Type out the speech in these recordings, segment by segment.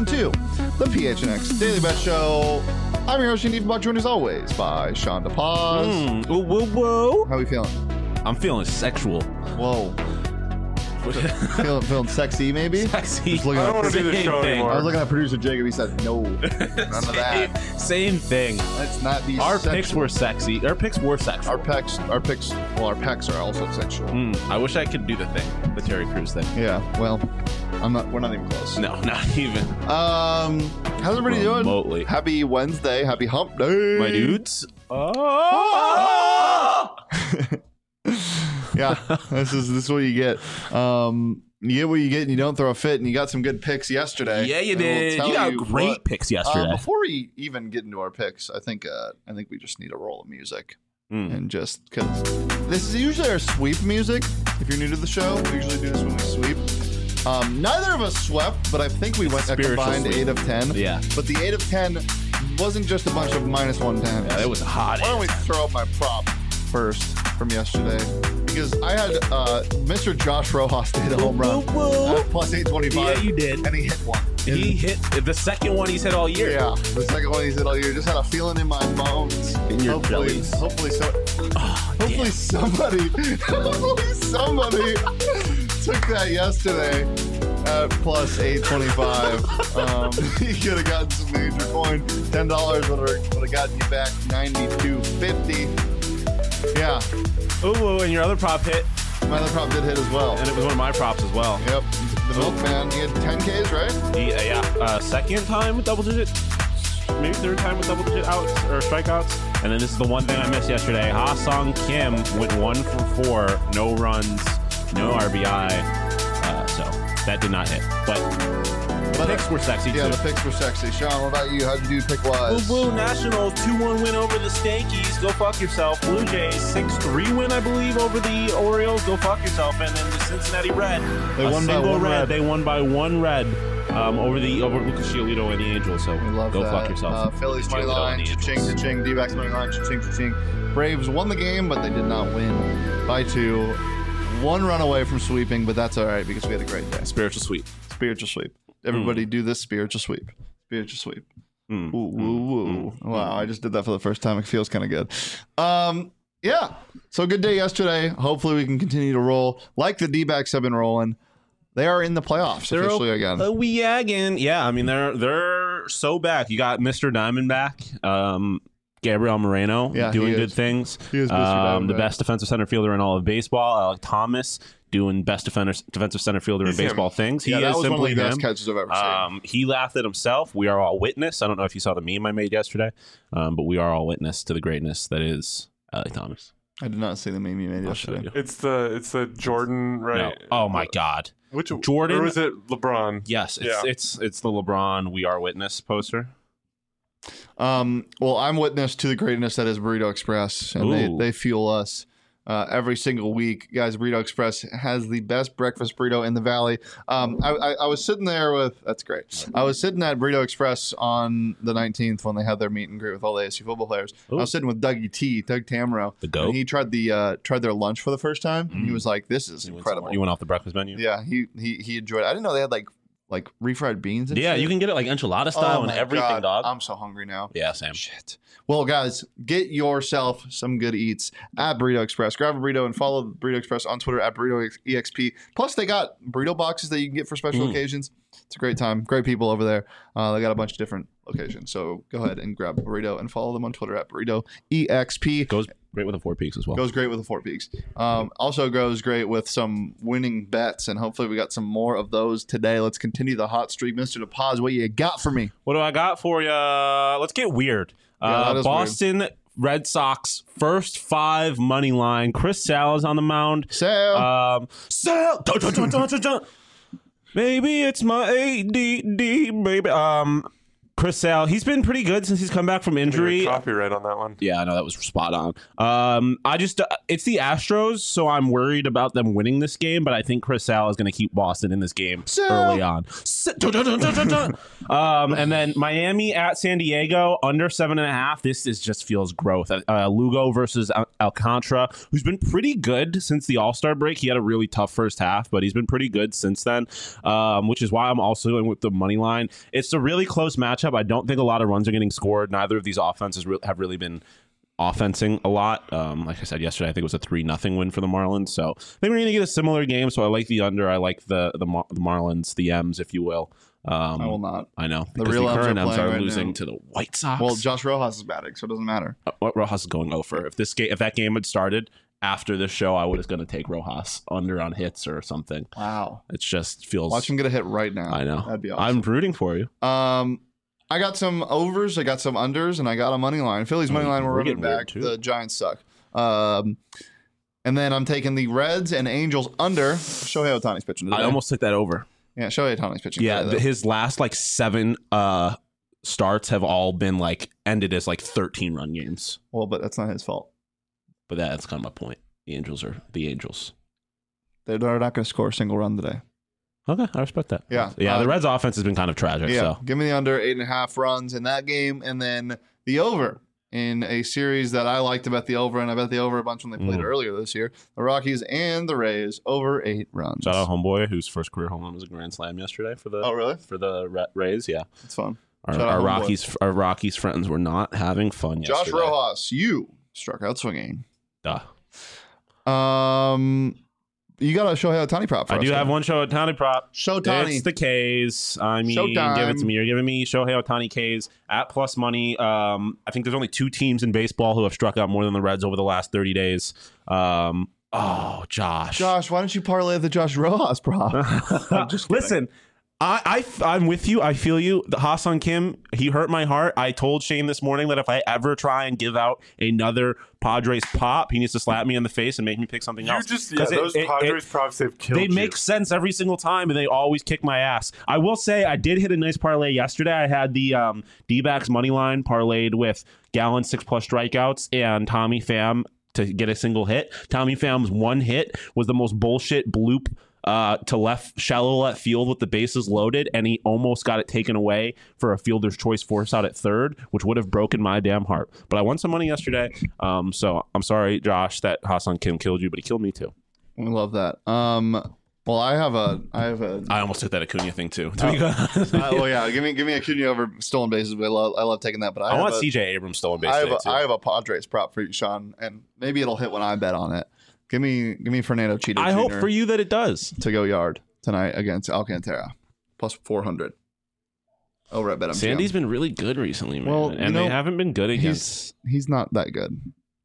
to the PHNX Daily Bet Show. I'm your host, Steve Buck, joined as always by Sean DePaz. Whoa. How are we feeling? I'm feeling sexual. Whoa. feeling sexy, maybe? Sexy. Just looking I at- don't want to do this show anymore. I was looking at producer Jacob. He said, no, none of that. Same thing. Let's not be Our sexual. picks were sexy. Our picks were sexual. Our pecs are also sexual. I wish I could do the thing, the Terry Crews thing. Yeah, well, we're not even close. No, not even. How's everybody doing? Remotely. Happy Wednesday. Happy hump day. My dudes. Yeah, this is what you get. You get what you get and you don't throw a fit, and you got some good picks yesterday. Yeah, you And we'll did. tell You got you great what. picks yesterday. Before we even get into our picks, I think we just need a roll of music. And just because this is usually our sweep music. If you're new to the show, we usually do this when we sweep. Neither of us swept, but I think we went a Spiritual combined sweep. 8 of 10. Yeah. But the 8 of 10 wasn't just a bunch of minus 110s. Yeah, it was hot. Why don't we throw up my prop first from yesterday? Because I had Mr. Josh Rojas hit a home run at plus 825. Yeah, you did. And he hit one. He hit the second one he's hit all year. Yeah, the second one he's hit all year. Just had a feeling in my bones. In your hopefully, bellies. hopefully, Oh, hopefully somebody took that yesterday at plus 825. He could have gotten some major coin. $10 would have gotten you back $92.50. Yeah, Oh, and your other prop hit, my other prop did hit as well. and it was one of my props as well. Yep, the milkman. He had 10Ks, right? Second time with double digit, maybe third time with double digit outs or strikeouts. And then this is the one thing I missed yesterday. Ha-Sung Kim went 1 for 4, no runs, no RBI. So that did not hit. But the picks were sexy Yeah, too. the picks were sexy. Sean, what about you? How'd you do pick-wise? Blue Nationals 2-1 win over the Stankies. Go fuck yourself. Blue Jays 6-3 win, I believe, over the Orioles. Go fuck yourself. And then the Cincinnati Red. They won by one red. They won by 1 red over Lucas Giolito and the Angels. So We love go that. fuck yourself. Phillies money Giolito line, and the cha-ching, Angels. cha-ching. D-backs money line, cha-ching, cha-ching. Braves won the game, but they did not win by 2. 1 run away from sweeping, but that's all right because we had a great day. Spiritual sweep. Spiritual sweep. Everybody do this spiritual sweep. Spiritual sweep. Ooh, woo, woo. Wow, I just did that for the first time. It feels kind of good. Yeah. So good day yesterday. Hopefully we can continue to roll like the D-backs have been rolling. They are in the playoffs officially again. We again. Yeah, I mean they're so back. You got Mr. Diamondback, Gabriel Moreno, Yeah, doing he good is. things. He is Mr. The Diamondback. best defensive center fielder in all of baseball. Alec Thomas doing best defensive center fielder in He's him. baseball things. He Yeah, that is was one of simply the best him. catches I've ever seen. He laughed at himself. We are all witness. I don't know if you saw the meme I made yesterday, but we are all witness to the greatness that is Alec Thomas. I did not see the meme you made I'll show yesterday. you. It's the Jordan, right? No. Oh my God. Which Jordan? Or was it LeBron? Yes, Yeah. it's the LeBron "We Are Witness" poster. Well, I'm witness to the greatness that is Burrito Express, and Ooh. they fuel us every single week. Guys, Burrito Express has the best breakfast burrito in the valley. I was sitting there with, that's great. I was sitting at Burrito Express on the 19th when they had their meet and greet with all the ASU football players. Ooh. I was sitting with Doug Tamaro. The GOAT. And he tried their lunch for the first time, and he was like, this is incredible. You went off the breakfast menu. Yeah, he enjoyed it. I didn't know they had like refried beans and Yeah, shit. you can get it like enchilada style and my everything, God. dog. I'm so hungry now. Yeah, same. Shit. Well, guys, get yourself some good eats at Burrito Express. Grab a burrito and follow Burrito Express on Twitter at BurritoEXP. Plus, they got burrito boxes that you can get for special occasions. It's a great time. Great people over there. They got a bunch of different locations. So go ahead and grab a burrito and follow them on Twitter at BurritoEXP. Goes great with the Four Peaks as well. Goes great with the Four Peaks. Also goes great with some winning bets, and hopefully we got some more of those today. Let's continue the hot streak. Mr. DePaz, what you got for me? What do I got for you? Let's get weird. Yeah, that is Boston Red Sox first 5 money line. Chris Sale is on the mound. Sale. Sale. Dun, dun, dun, dun, dun, dun. Maybe it's my ADD, baby. Chris Sale, he's been pretty good since he's come back from injury. Copyright on that one. Yeah, I know that was spot on. I just it's the Astros, so I'm worried about them winning this game, but I think Chris Sale is going to keep Boston in this game early on. And then Miami at San Diego under 7.5. This just feels growth. Lugo versus Alcantara, who's been pretty good since the All-Star break. He had a really tough first half, but he's been pretty good since then, which is why I'm also in with the money line. It's a really close matchup. I don't think a lot of runs are getting scored. Neither of these offenses have really been offensing a lot. Like I said yesterday, I think it was a 3-0 win for the Marlins. So I think we're going to get a similar game. So I like the under. I like the Marlins, the M's, if you will. I will not. I know. The Because real the current M's M's are are playing right losing now. to the White Sox. Well, Josh Rojas is batting, so it doesn't matter. Rojas is going over. If that game had started after this show, I was going to take Rojas under on hits or something. Wow. It just feels. Watch him get a hit right now. I know. That'd be awesome. I'm rooting for you. I got some overs, I got some unders, and I got a money line. Phillies money line, we're running getting weird, back. too. The Giants suck. And then I'm taking the Reds and Angels under. Shohei Ohtani's pitching today. I almost took that over. Yeah, Shohei Ohtani's pitching Yeah, today, though. his last 7 starts have all been ended as 13-run games. Well, but that's not his fault. But that's kind of my point. The Angels are the Angels. They're not going to score a single run today. Okay, I respect that. Yeah. The Reds' offense has been kind of tragic. Yeah, So give me the under 8.5 runs in that game, and then the over in a series that I liked to bet the over, and I bet the over a bunch when they played earlier this year. The Rockies and the Rays over 8 runs. shout out homeboy, whose first career home run was a grand slam yesterday for the Oh, really? Rays. Yeah, It's fun. our Shout out our Rockies friends were not having fun Josh yesterday. Rojas, you struck out swinging. Duh. You got a Shohei Ohtani prop for I us, do have man. one Shohei prop. Showtani. It's the K's. I mean, Showtime. give it to me. You're giving me Shohei Ohtani K's at plus money. I think there's only 2 teams in baseball who have struck out more than the Reds over the last 30 days. Josh. Josh, why don't you parlay the Josh Rojas prop? I'm just kidding. Listen, I'm with you. I feel you. The Ha-Seong Kim, he hurt my heart. I told Shane this morning that if I ever try and give out another Padres pop, he needs to slap me in the face and make me pick something else. Those Padres props, they've killed They you. make sense every single time, and they always kick my ass. I will say I did hit a nice parlay yesterday. I had the D-backs money line parlayed with Gallen 6+ strikeouts and Tommy Pham to get a single hit. Tommy Pham's one hit was the most bullshit bloop to shallow left field with the bases loaded, and he almost got it taken away for a fielder's choice force out at third, which would have broken my damn heart. But I won some money yesterday, so I'm sorry, Josh, that Ha-Seong Kim killed you, but he killed me too. We love that. Well, I have a. I almost took that Acuna thing too. To be honest. Well, yeah. Give me Acuna over stolen bases. I love taking that. But I want CJ Abrams stolen base I today too. have a Padres prop for you, Sean, and maybe it'll hit when I bet on it. Give me Fernando Cheeto I Jr. hope for you that it does. to go yard tonight against Alcantara, plus 400. Over at BetMGM. Sandy's been really good recently, man. Well, and they haven't been good against. He's not that good.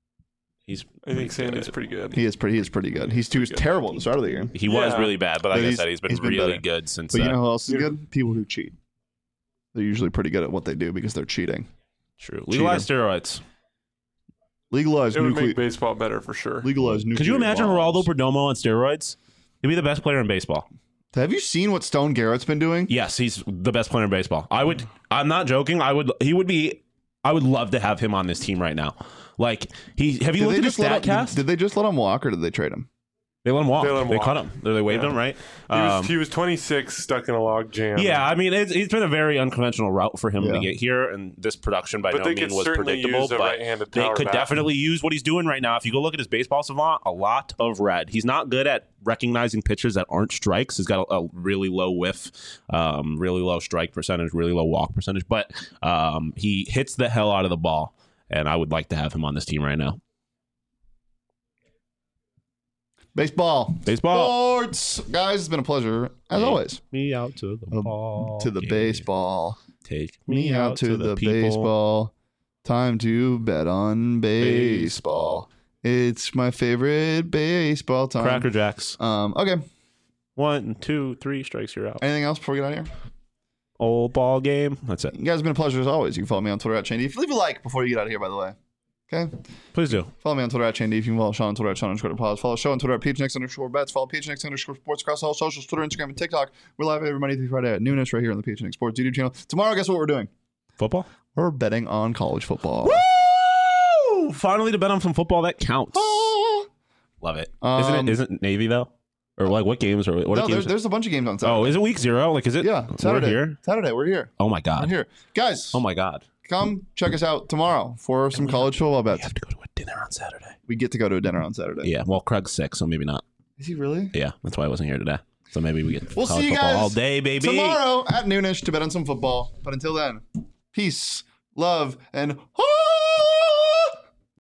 I think Sandy's pretty good. He is pretty good. He was terrible at the start of the year. He was Yeah. really bad, but like I He's- said, he's been he's been really better. good since. But you know who else is good? People who cheat. They're usually pretty good at what they do because they're cheating. True. Legalize steroids. Legalize It would nuclear. make baseball better for sure. Legalize nuclear. Could you imagine bombs. Geraldo Perdomo on steroids? He'd be the best player in baseball. Have you seen what Stone Garrett's been doing? Yes, he's the best player in baseball. I'm not joking. I would love to have him on this team right now. Like have you looked at his StatCast? Did they just let him walk or did they trade him? They let him walk. They let him They walk. cut him. They waived Yeah. him, right? He was 26, stuck in a log jam. Yeah, I mean, it's been a very unconventional route for him Yeah. to get here, and this production by But no they means could was certainly predictable. use a But right-handed they power could bat. definitely use what he's doing right now. If you go look at his baseball savant, a lot of red. He's not good at recognizing pitches that aren't strikes. He's got a really low whiff, really low strike percentage, really low walk percentage, but he hits the hell out of the ball, and I would like to have him on this team right now. Baseball. Sports. Guys, it's been a pleasure, as always. Me out to the ball. To the game. baseball. Take Me out to the people. baseball. Time to bet on baseball. It's my favorite baseball time. Cracker Jacks. Okay. 1, 2, 3 strikes, you're out. Anything else before we get out of here? Old ball game. That's it. You guys, it's been a pleasure as always. You can follow me on Twitter at Chandy. If you leave a like before you get out of here, by the way. Okay? Please do. Follow me on Twitter at Chandy. If you can follow Sean on Twitter at Sean_Pause. Follow the show on Twitter at PHNX_bets. Follow PHNX_sports across all socials, Twitter, Instagram, and TikTok. We're live every Monday through Friday at noonish right here on the PHNX Sports YouTube channel. Tomorrow, guess what we're doing? Football? We're betting on college football. Woo! Finally to bet on some football that counts. Ah. Love it. Isn't Navy though? Or like what games are what No, games? there's a bunch of games on Saturday. Oh, is it week 0? Like is it? Yeah, Saturday. We're here? Saturday, we're here. Oh my We're god. here. Guys, Oh my god. come check us out tomorrow for some college football We bets. have to go to a dinner on Saturday. We get to go to a dinner on Saturday. Yeah. Well, Craig's sick, so maybe not. Is he really? Yeah, that's why I wasn't here today. So maybe we get We'll college see you football guys all day, baby. tomorrow at noonish to bet on some football. But until then, peace, love, and